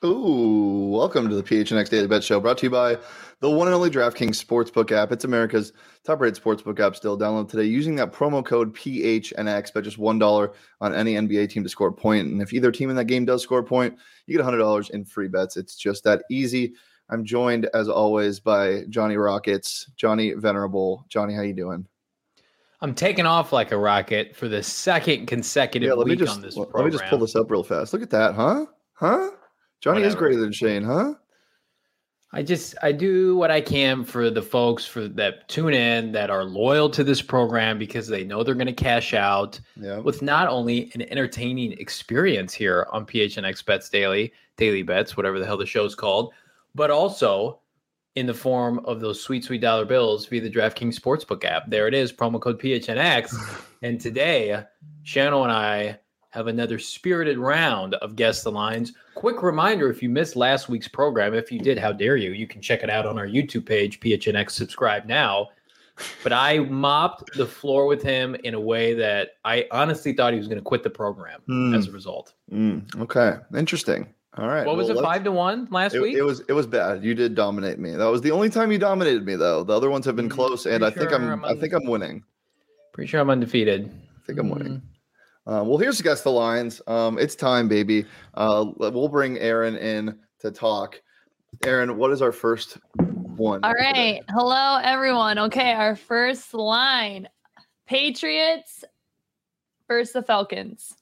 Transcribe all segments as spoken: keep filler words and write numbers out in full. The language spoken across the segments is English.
Ooh, welcome to the P H N X Daily Bet Show, brought to you by the one and only DraftKings Sportsbook app. It's America's top-rated sportsbook app still. Download today using that promo code P H N X. Bet just one dollar on any N B A team to score a point. And if either team in that game does score a point, you get one hundred dollars in free bets. It's just that easy. I'm joined, as always, by Johnny Rockets, Johnny Venerable. Johnny, how you doing? I'm taking off like a rocket for the second consecutive yeah, let week me just, on this let program. me just pull this up real fast. Look at that, huh? Huh? Johnny Whatever. is greater than Shane, huh? I just I do what I can for the folks for that tune in that are loyal to this program because they know they're going to cash out Yeah. with not only an entertaining experience here on P H N X Bets Daily, Daily Bets, whatever the hell the show's called, but also in the form of those sweet, sweet dollar bills via the DraftKings Sportsbook app. There it is, promo code P H N X. And today, Shannon and I have another spirited round of Guess the Lines. Quick reminder, if you missed last week's program, if you did, how dare you, you can check it out on our YouTube page, P H N X, subscribe now. But I mopped the floor with him in a way that I honestly thought he was going to quit the program Mm. as a result. Mm. Okay, interesting. All right. What was well, it, five to one last it, week? It was it was bad. You did dominate me. That was the only time you dominated me, though. The other ones have been Mm, close, and I think sure I'm, I'm I un- think I'm winning. Pretty sure I'm undefeated. I think I'm winning. Uh, well, here's Guess the Lines. Um, it's time, baby. Uh, we'll bring Aaron in to talk. Aaron, what is our first one? All right. today? Hello, everyone. Okay, our first line. Patriots versus the Falcons.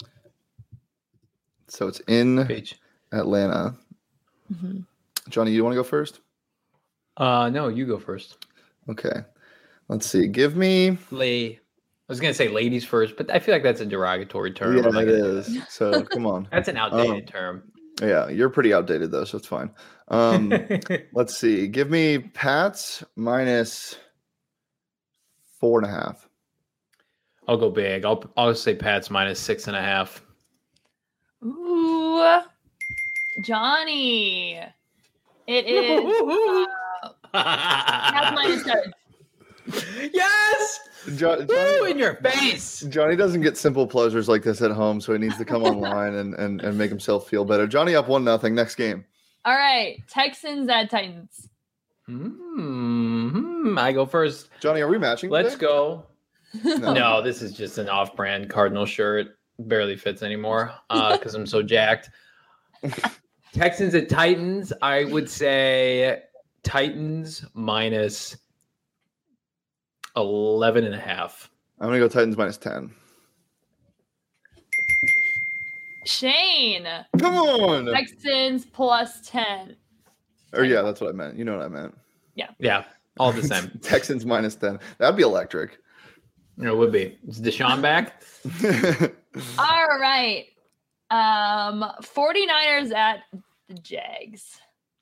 So it's in Page. Atlanta. Mm-hmm. Johnny, you want to go first? Uh, no, you go first. Okay. Let's see. Give me. Lay. I was going to say ladies first, but I feel like that's a derogatory term. Yeah, I'm not it gonna do is. that. So come on. That's an outdated Um, term. Yeah, you're pretty outdated though, so it's fine. Um, let's see. Give me Pats minus four and a half. I'll go big. I'll I'll say Pats minus six and a half. Ooh, Johnny. It is uh, Pats minus seven. Yes! Jo- Woo, Johnny, in your face. Johnny doesn't get simple pleasures like this at home, so he needs to come online and, and, and make himself feel better. Johnny up one nothing. Next game. All right, Texans at Titans. Hmm. I go first. Johnny, are we matching? Let's today? go. No. No, this is just an off-brand Cardinal shirt. Barely fits anymore because I'm so jacked. Texans at Titans. I would say Titans minus eleven and a half. I'm gonna go Titans minus ten. Shane. Come on. Texans plus ten. Or yeah, that's what I meant. You know what I meant. Yeah, all the same. Texans minus ten. That'd be electric. You know, it would be. Is Deshaun back? All right. Um, 49ers at the Jags.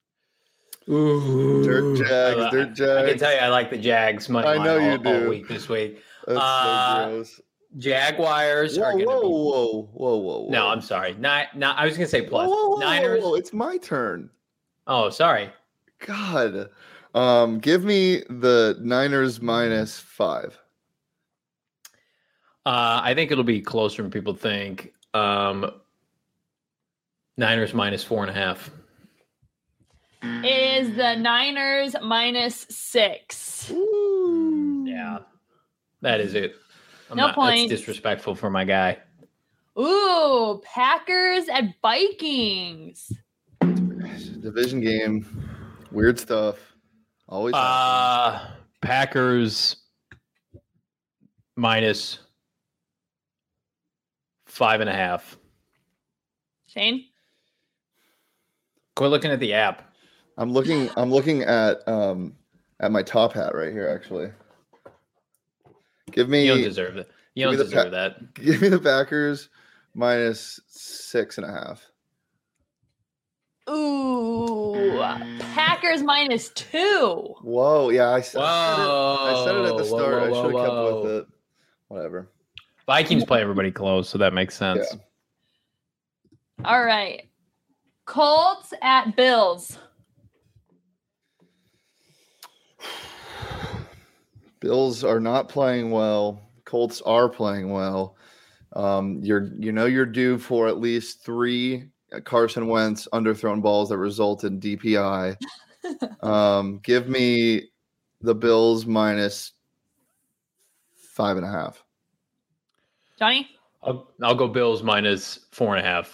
Ooh. Dirt Jags, I, Dirt I can Jags. tell you I like the Jags money I line know you all, all do. week this week. That's Uh, so gross. Jaguars Whoa, are going to whoa, be. whoa, whoa, whoa, whoa. No, I'm sorry. Not, not, I was going to say Whoa, plus. whoa, whoa, Niners. whoa, it's my turn. Oh, sorry. God. Um, give me the Niners minus five. Uh, I think it'll be closer than people think. Um, Niners minus four and a half. Is the Niners minus six. Ooh. Yeah, that is it. I'm No not, points. That's disrespectful for my guy. Ooh, Packers at Vikings. Division game. Weird stuff. Always. happens. Uh, Packers minus five and a half. Shane? Quit looking at the app. I'm looking. I'm looking at um at my top hat right here. Actually, give me. You don't deserve it. You give don't me the deserve pa- that. Give me the Packers minus six and a half. Ooh, Packers minus two. Whoa, yeah, I, said Whoa. it. I said it at the Whoa, start. whoa, I should have kept whoa. with it. Whatever. Vikings play everybody close, so that makes sense. Yeah. All right. Colts at Bills. Bills are not playing well. Colts are playing well. Um, you're, you know, you're due for at least three Carson Wentz underthrown balls that result in D P I. Um, give me the Bills minus five and a half. Johnny? I'll, I'll go Bills minus four and a half.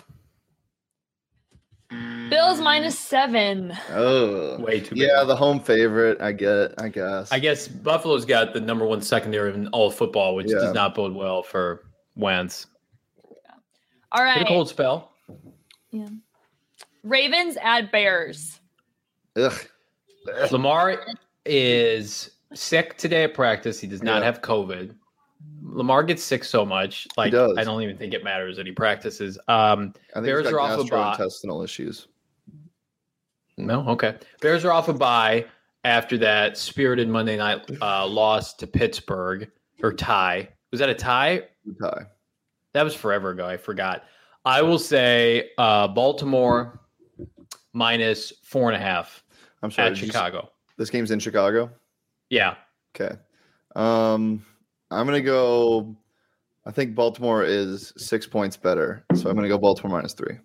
Bills minus seven. Oh, Way too big. Yeah, the home favorite. I get it. I guess. I guess Buffalo's got the number one secondary in all of football, which Yeah. does not bode well for Wentz. All right. Get a cold spell. Yeah. Ravens at Bears. Ugh. Lamar is sick today at practice. He does not Yeah. have COVID. Lamar gets sick so much, like does. I don't even think it matters that he practices. Um, I think Bears he's are got off a bye. gastrointestinal issues. No, okay. Bears are off a bye after that spirited Monday night uh, loss to Pittsburgh or tie. Was that a tie? Tie. That was forever ago. I forgot. I will say uh, Baltimore minus four and a half I'm sorry. at did you s- Chicago. This game's in Chicago. Yeah. Okay. Um, I'm gonna go. I think Baltimore is six points better, so I'm gonna go Baltimore minus three.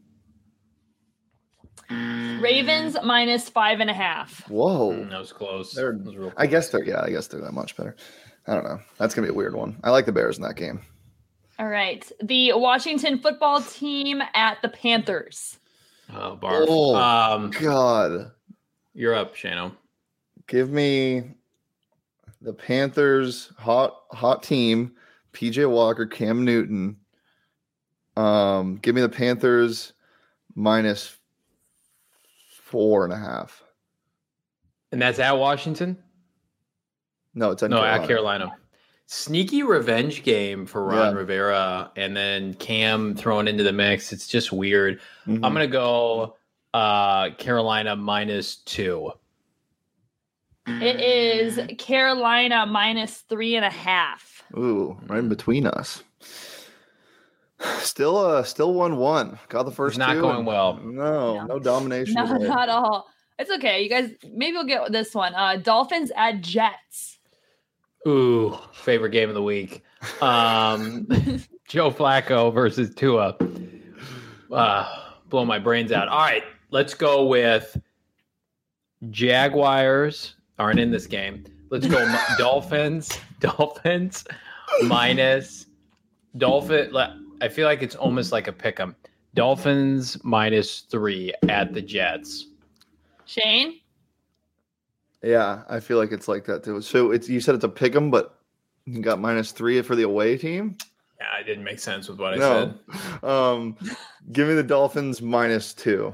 Ravens minus five and a half. Whoa. Mm, that was close. They're- That was real I close. guess they're yeah. I guess they're that much better. I don't know. That's gonna be a weird one. I like the Bears in that game. All right. The Washington football team at the Panthers. Oh, barf. Oh. Um, God, you're up, Shano. give me the Panthers hot hot team. P J Walker, Cam Newton. Um, give me the Panthers minus four and a half. And that's at Washington? No, it's at No, Carolina. at Carolina. Sneaky revenge game for Ron Yeah. Rivera, and then Cam thrown into the mix. It's just weird. Mhm. I'm gonna go uh, Carolina minus two. It is Carolina minus three and a half. Ooh, right in between us. Still, uh, still one one. Got the first. It's not two going and- well. No, No. no domination. No, today. not all. It's okay. You guys, maybe we'll get this one. Uh, Dolphins at Jets. Ooh, favorite game of the week. Um, Joe Flacco versus Tua. Uh, blow my brains out. All right, let's go with Jaguars aren't in this game. Let's go Dolphins. Dolphins minus Dolphin. I feel like it's almost like a pick 'em. Dolphins minus three at the Jets. Shane? Yeah, I feel like it's like that too. So it's you said it's a pick 'em, but you got minus three for the away team. Yeah, it didn't make sense with what I No, said. um, give me the Dolphins minus two.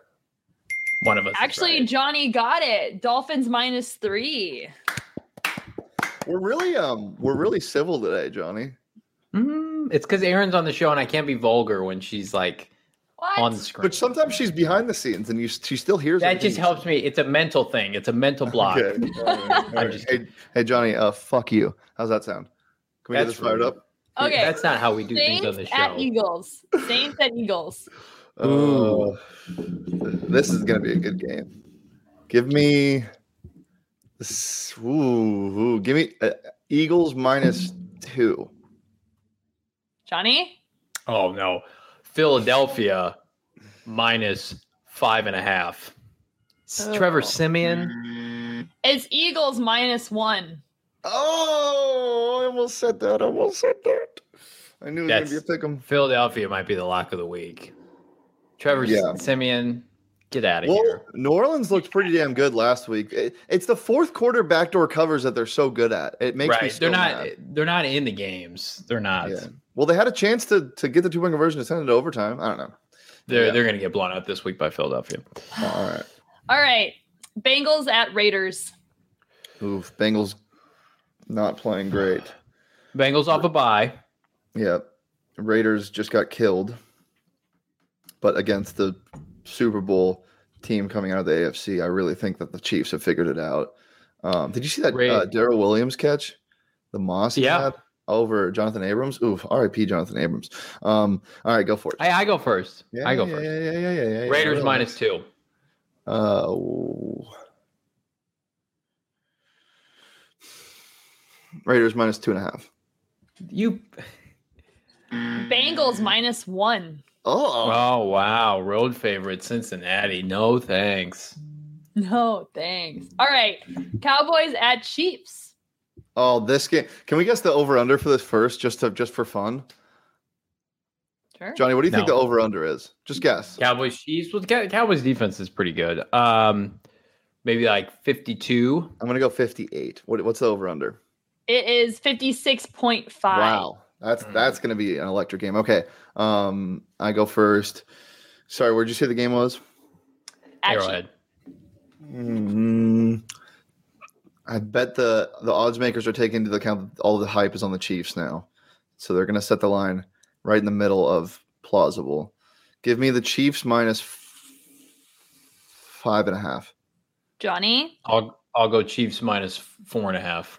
One of us. is Actually, right. Johnny got it. Dolphins minus three. We're really um, we're really civil today, Johnny. Mm, it's because Aaron's on the show and I can't be vulgar when she's like What? on the screen. But sometimes she's behind the scenes and you she still hears. that everything just you helps me. It's a mental thing. It's a mental block. Okay. All right. All I'm right. just Hey, hey, Johnny. Uh, fuck you. How's that sound? Can we get That's this fired rude. up? Okay. That's not how we do things on Saints the at show. Eagles. Saints at Eagles. Ooh. Uh, this is gonna be a good game. Give me this. Ooh, ooh, give me uh, Eagles minus two. Johnny? Oh no. Philadelphia minus five and a half. S- Oh. Trevor Simeon. It's Eagles minus one. Oh, I almost said that. I almost said that. I knew it was That's- gonna be a pick 'em. Philadelphia might be the lock of the week. Trevor Yeah. Simeon, get out of Well, here. New Orleans looked pretty damn good last week. It- it's the fourth quarter backdoor covers that they're so good at. It makes me Right. so They're not mad. they're not in the games. They're not. Yeah. Well, they had a chance to to get the two point conversion to send it to overtime. I don't know. They're Yeah. they're gonna get blown out this week by Philadelphia. All right. All right. Bengals at Raiders. Oof. Bengals not playing great. Bengals off a bye. Yep. Raiders just got killed, but against the Super Bowl team coming out of the A F C, I really think that the Chiefs have figured it out. Um, did you see that Ra- uh, Darrell Williams catch? The Moss he Yeah. had over Jonathan Abrams? Oof. R I P Jonathan Abrams. Um, all right, go for it. I, I go first. Yeah, I go yeah, first. Yeah, yeah, yeah, yeah, yeah, yeah. Raiders Relax. minus two. Uh, ooh. Raiders minus two and a half. You Bengals minus one. Oh, Oh, wow. Road favorite Cincinnati. No thanks. No, thanks. All right. Cowboys at Chiefs. oh, this game. Can we guess the over under for this first, just to just for fun? Sure. Johnny, what do you think No. the over under is? Just guess. Cowboys Chiefs. Well, the Cow- Cowboys defense is pretty good. Um, maybe like fifty-two. I'm gonna go fifty-eight. What, what's the over under? It is fifty-six point five. Wow, that's Mm. that's gonna be an electric game. Okay, um, I go first. Sorry, where'd you say the game was? At Arrowhead. Mm, I bet the the odds makers are taking into account that all the hype is on the Chiefs now, so they're gonna set the line right in the middle of plausible. Give me the Chiefs minus f- five and a half. Johnny. I'll I'll go Chiefs minus four and a half.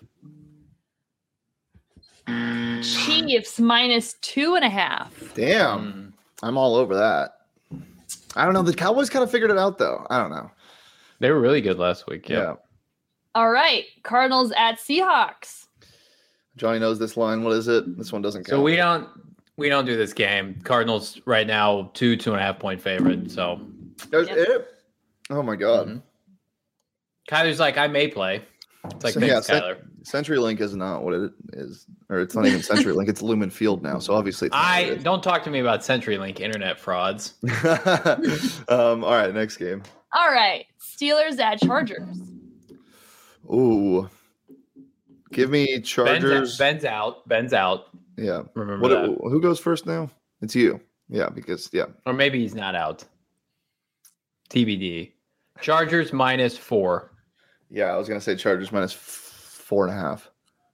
Chiefs minus two and a half. Damn, Mm. I'm all over that. I don't know. The Cowboys kind of figured it out, though. I don't know. They were really good last week. Yeah. Yeah. All right. Cardinals at Seahawks. Johnny knows this line. What is it? This one doesn't count. So we don't we don't do this game. Cardinals right now two two and a half point favorite. So There's Yep. it. Oh my god. Mhm. Kyler's like I may play. It's like So, thanks, yeah, Cent- Kyler. CenturyLink is not what it is, or it's not even CenturyLink. It's Lumen Field now. So obviously, it's not I what don't talk to me about CenturyLink internet frauds. it is. um. All right. Next game. All right. Steelers at Chargers. Ooh. Give me Ben's, Chargers. Ben's out. Ben's out. Yeah. Remember What? that. Who goes first now? It's you. Yeah. Because yeah. Or maybe he's not out. T B D. Chargers minus four. Yeah. I was gonna say Chargers minus f- four and a half.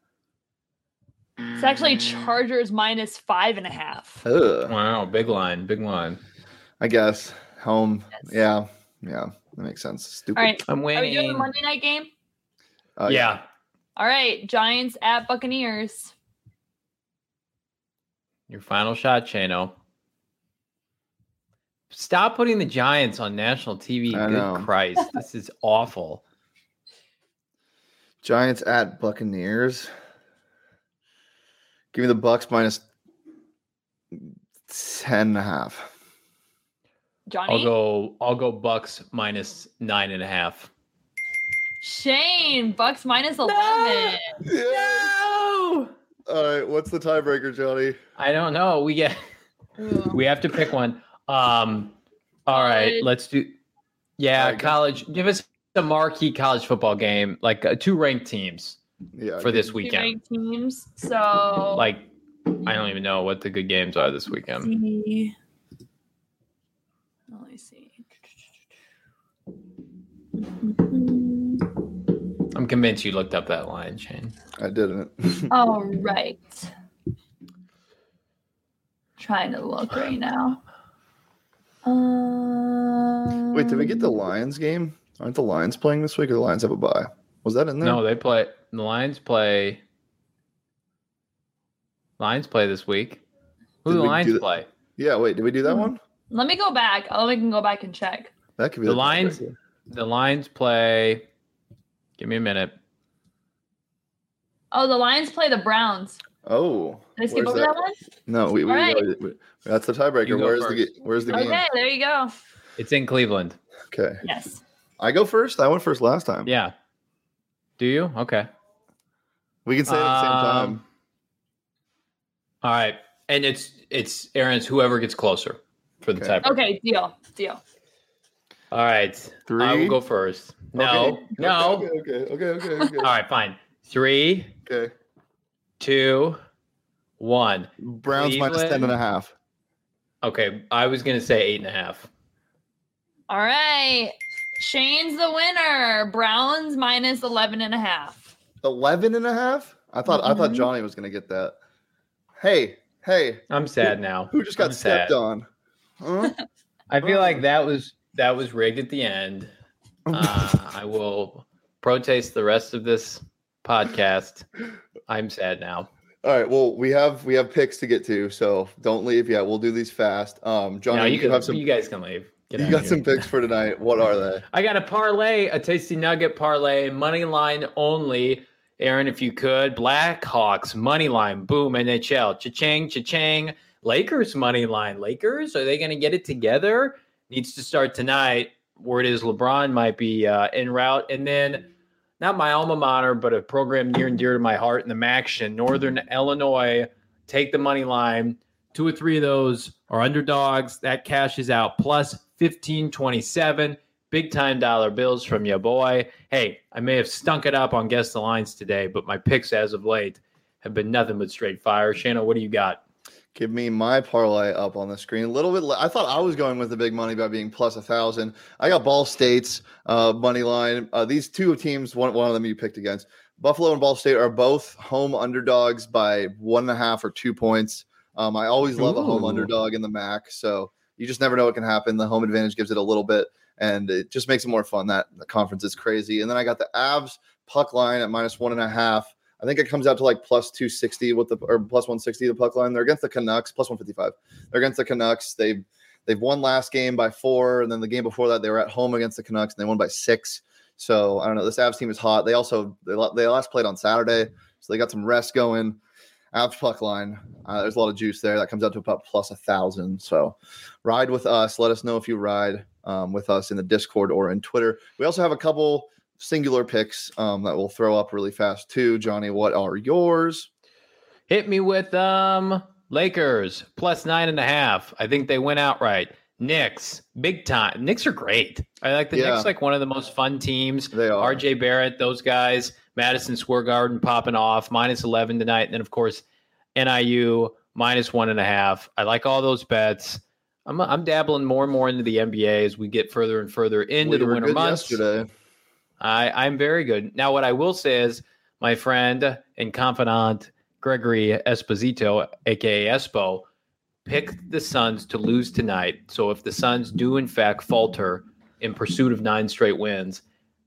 It's actually Chargers minus five and a half. Ugh. Wow, big line, big line. I guess home. Yes. Yeah. Yeah. That makes sense. Stupid. All right. I'm Are we doing the winning. Monday night game? Uh, yeah. All right. Giants at Buccaneers. Your final shot, Chano. Stop putting the Giants on national T V. I Good know. Christ. This is awful. Giants at Buccaneers. Give me the Bucks minus ten and a half. Johnny. I'll go I'll go Bucks minus nine and a half. Shane. Bucks minus eleven. No! All right. What's the tiebreaker, Johnny? I don't know. We get Ooh. we have to pick one. Um all right, College. let's do yeah, All right, go. college. Give us a marquee college football game, like uh, two ranked teams Yeah. for this Two weekend. ranked teams. So Like I don't even know what the good games are this weekend. see. Let me see. I'm convinced you looked up that line, Shane. I didn't. All right. Trying to look right now. Um, Wait, did we get the Lions game? Aren't the Lions playing this week, or the Lions have a bye? Was that in there? No, they play. The Lions play. Lions play this week. Who Did do the we do Lions that? play? Yeah. Wait, did we do that Hmm. one? Let me go back. Oh, we can go back and check. That could be The Lions- tiebreaker. The Lions play. Give me a minute. Oh, the Lions play the Browns. Oh. Did I skip where's over that one? No, we, we, All right. we- we- that's the tiebreaker. You go Where's the first. ga- Where's the game? Okay, there you go. It's in Cleveland. Okay. Yes. I go first. I went first last time. Yeah. Do you? Okay. We can say it at the same time. Um, All right, and it's it's Aaron's whoever gets closer for the Okay. tiebreaker. Okay, deal. Deal. All right. Three. I will go first. No. Okay. No. Okay. Okay. Okay. Okay. Okay. All right, fine. Three, okay. two, one. Browns minus Cleveland. ten and a half. Okay, I was gonna say eight and a half. All right. Shane's the winner. Browns minus eleven and a half. Eleven and a half? I thought I thought Mhm. Johnny was gonna get that. Hey, hey, I'm sad now. who just got I'm stepped sad. on? Huh? I feel like that was that was rigged at the end. Uh, I will protest the rest of this podcast. I'm sad now. All right. Well, we have we have picks to get to, so don't leave yet. We'll do these fast. Um, Johnny, No, you, you can have some. you guys can leave. Get You out got of some here. picks for tonight. What are they? I got a parlay, a tasty nugget parlay, money line only. Aaron, if you could, Blackhawks money line, boom, N H L, cha-ching, cha-ching. Lakers money line. Lakers, are they going to get it together? Needs to start tonight. Word is LeBron might be uh, en route. And then not my alma mater, but a program near and dear to my heart in the MACtion, Northern Illinois, take the money line. Two or three of those are underdogs. That cashes out plus fifteen twenty-seven. Big time dollar bills from your boy. Hey, I may have stunk it up on Guess the Lines today, but my picks as of late have been nothing but straight fire. Shana, what do you got? Give me my parlay up on the screen. A little bit. I thought I was going with the big money by being plus a thousand. I got Ball State's uh, money line. Uh, these two teams, one one of them you picked against. Buffalo and Ball State are both home underdogs by one and a half or two points. Um, I always love Ooh. a home underdog in the M A C, so you just never know what can happen. The home advantage gives it a little bit, and it just makes it more fun. That the conference is crazy. And then I got the Avs puck line at minus one and a half. I think it comes out to like plus two sixty with the or plus one sixty the puck line. They're against the Canucks, plus one fifty-five. They're against the Canucks. They've they've won last game by four, and then the game before that they were at home against the Canucks and they won by six. So I don't know. This Avs team is hot. They also they, they last played on Saturday, so they got some rest going. Avs puck line. Uh, there's a lot of juice there. That comes out to about plus a thousand. So ride with us. Let us know if you ride um, with us in the Discord or in Twitter. We also have a couple singular picks um, that we'll throw up really fast too. Johnny, what are yours? Hit me with um Lakers plus nine and a half. I think they went outright. Knicks, big time. Knicks are great. I like the yeah. Knicks, like one of the most fun teams. They are. R J Barrett, those guys. Madison Square Garden popping off, minus eleven tonight. And then, of course, N I U, minus one and a half. I like all those bets. I'm I'm dabbling more and more into the N B A as we get further and further into we the winter months. Yesterday. I, I'm very good. Now, what I will say is my friend and confidant, Gregory Esposito, a k a. Espo, picked the Suns to lose tonight. So if the Suns do, in fact, falter in pursuit of nine straight wins,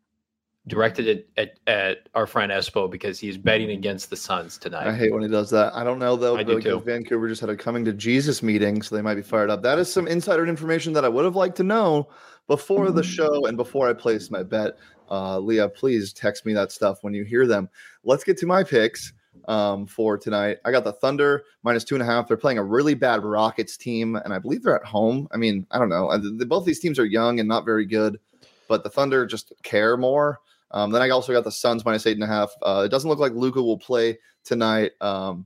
directed it at, at our friend Espo because he's betting against the Suns tonight. I hate when he does that. I don't know, though, I because do Vancouver just had a coming to Jesus meeting, so they might be fired up. That is some insider information that I would have liked to know before the show and before I placed my bet. Uh, Leah, please text me that stuff when you hear them. Let's get to my picks um, for tonight. I got the Thunder minus two and a half. They're playing a really bad Rockets team, and I believe they're at home. I mean, I don't know. Both these teams are young and not very good, but the Thunder just care more. Um, then I also got the Suns minus eight and a half. Uh, it doesn't look like Luka will play tonight. Um,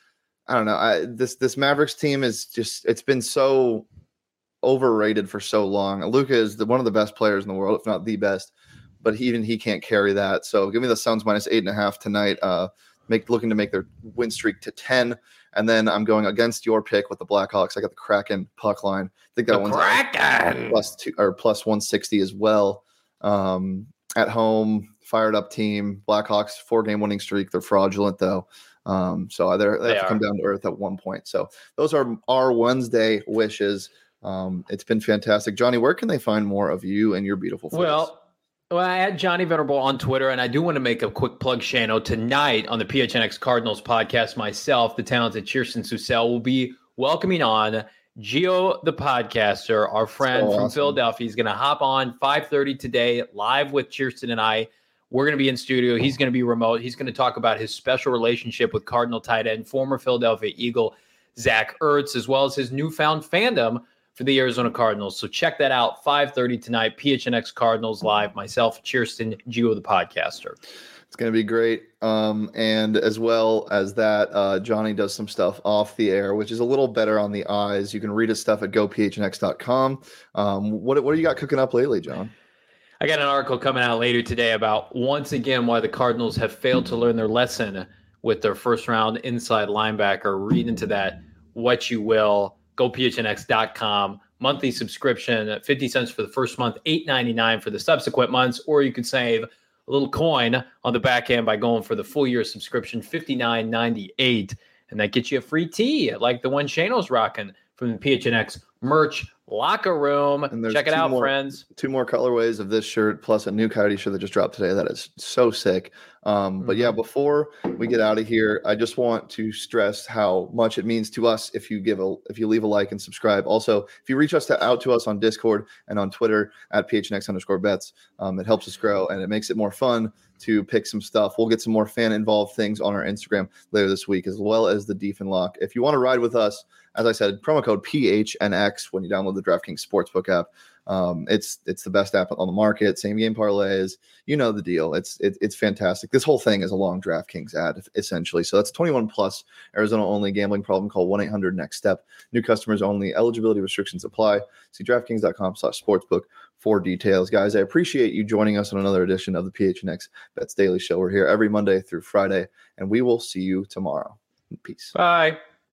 I don't know. I, this this Mavericks team is just, it's been so overrated for so long. Luka is the, one of the best players in the world, if not the best, but he, even he can't carry that. So give me the Suns minus eight and a half tonight. Uh, make looking to make their win streak to ten. And then I'm going against your pick with the Blackhawks. I got the Kraken puck line. I think that the one's Kraken plus two or plus one sixty as well. Um, At home, fired up team. Blackhawks, four game winning streak. They're fraudulent though. Um, so they're, they, they have to come down to earth at one point. So those are our Wednesday wishes. Um, it's been fantastic. Johnny, where can they find more of you and your beautiful face? Well, well, I had Johnny Venerable on Twitter, and I do want to make a quick plug, Shano. Tonight on the P H N X Cardinals podcast, myself, the talented Kirsten Susel, will be welcoming on Gio the podcaster, our friend so from awesome. Philadelphia. He's going to hop on five thirty today, live with Kirsten and I. We're going to be in studio. He's going to be remote. He's going to talk about his special relationship with Cardinal tight end, former Philadelphia Eagle, Zach Ertz, as well as his newfound fandom for the Arizona Cardinals. So check that out, five thirty tonight, P H N X Cardinals Live. Myself, Kirsten, Gio the podcaster. It's going to be great. Um, and as well as that, uh, Johnny does some stuff off the air, which is a little better on the eyes. You can read his stuff at go p h n x dot com. Um, what, what do you got cooking up lately, John? I got an article coming out later today about, once again, why the Cardinals have failed to learn their lesson with their first-round inside linebacker. Read into that what you will. go p h n x dot com. Monthly subscription, fifty cents for the first month, eight ninety-nine for the subsequent months, or you could save a little coin on the back end by going for the full year subscription, fifty-nine ninety-eight, and that gets you a free tee like the one Shano's rocking from the P H N X merch locker room. And there's Check it two out, more- friends. Two more colorways of this shirt, plus a new Coyote shirt that just dropped today. That is so sick. Um, but yeah, before we get out of here, I just want to stress how much it means to us if you give a if you leave a like and subscribe. Also, if you reach us to, out to us on Discord and on Twitter at P H N X underscore bets, um, it helps us grow and it makes it more fun to pick some stuff. We'll get some more fan involved things on our Instagram later this week, as well as the Deef and Lock. If you want to ride with us, as I said, promo code P H N X when you download the DraftKings Sportsbook app. Um, it's it's the best app on the market. Same game parlays, you know the deal. It's it, it's fantastic. This whole thing is a long DraftKings ad essentially. So that's twenty-one plus, Arizona only, gambling problem. Call one eight hundred next step. New customers only. Eligibility restrictions apply. See DraftKings dot com slash sportsbook for details. Guys, I appreciate you joining us on another edition of the P H N X Bets Daily Show. We're here every Monday through Friday, and we will see you tomorrow. Peace. Bye.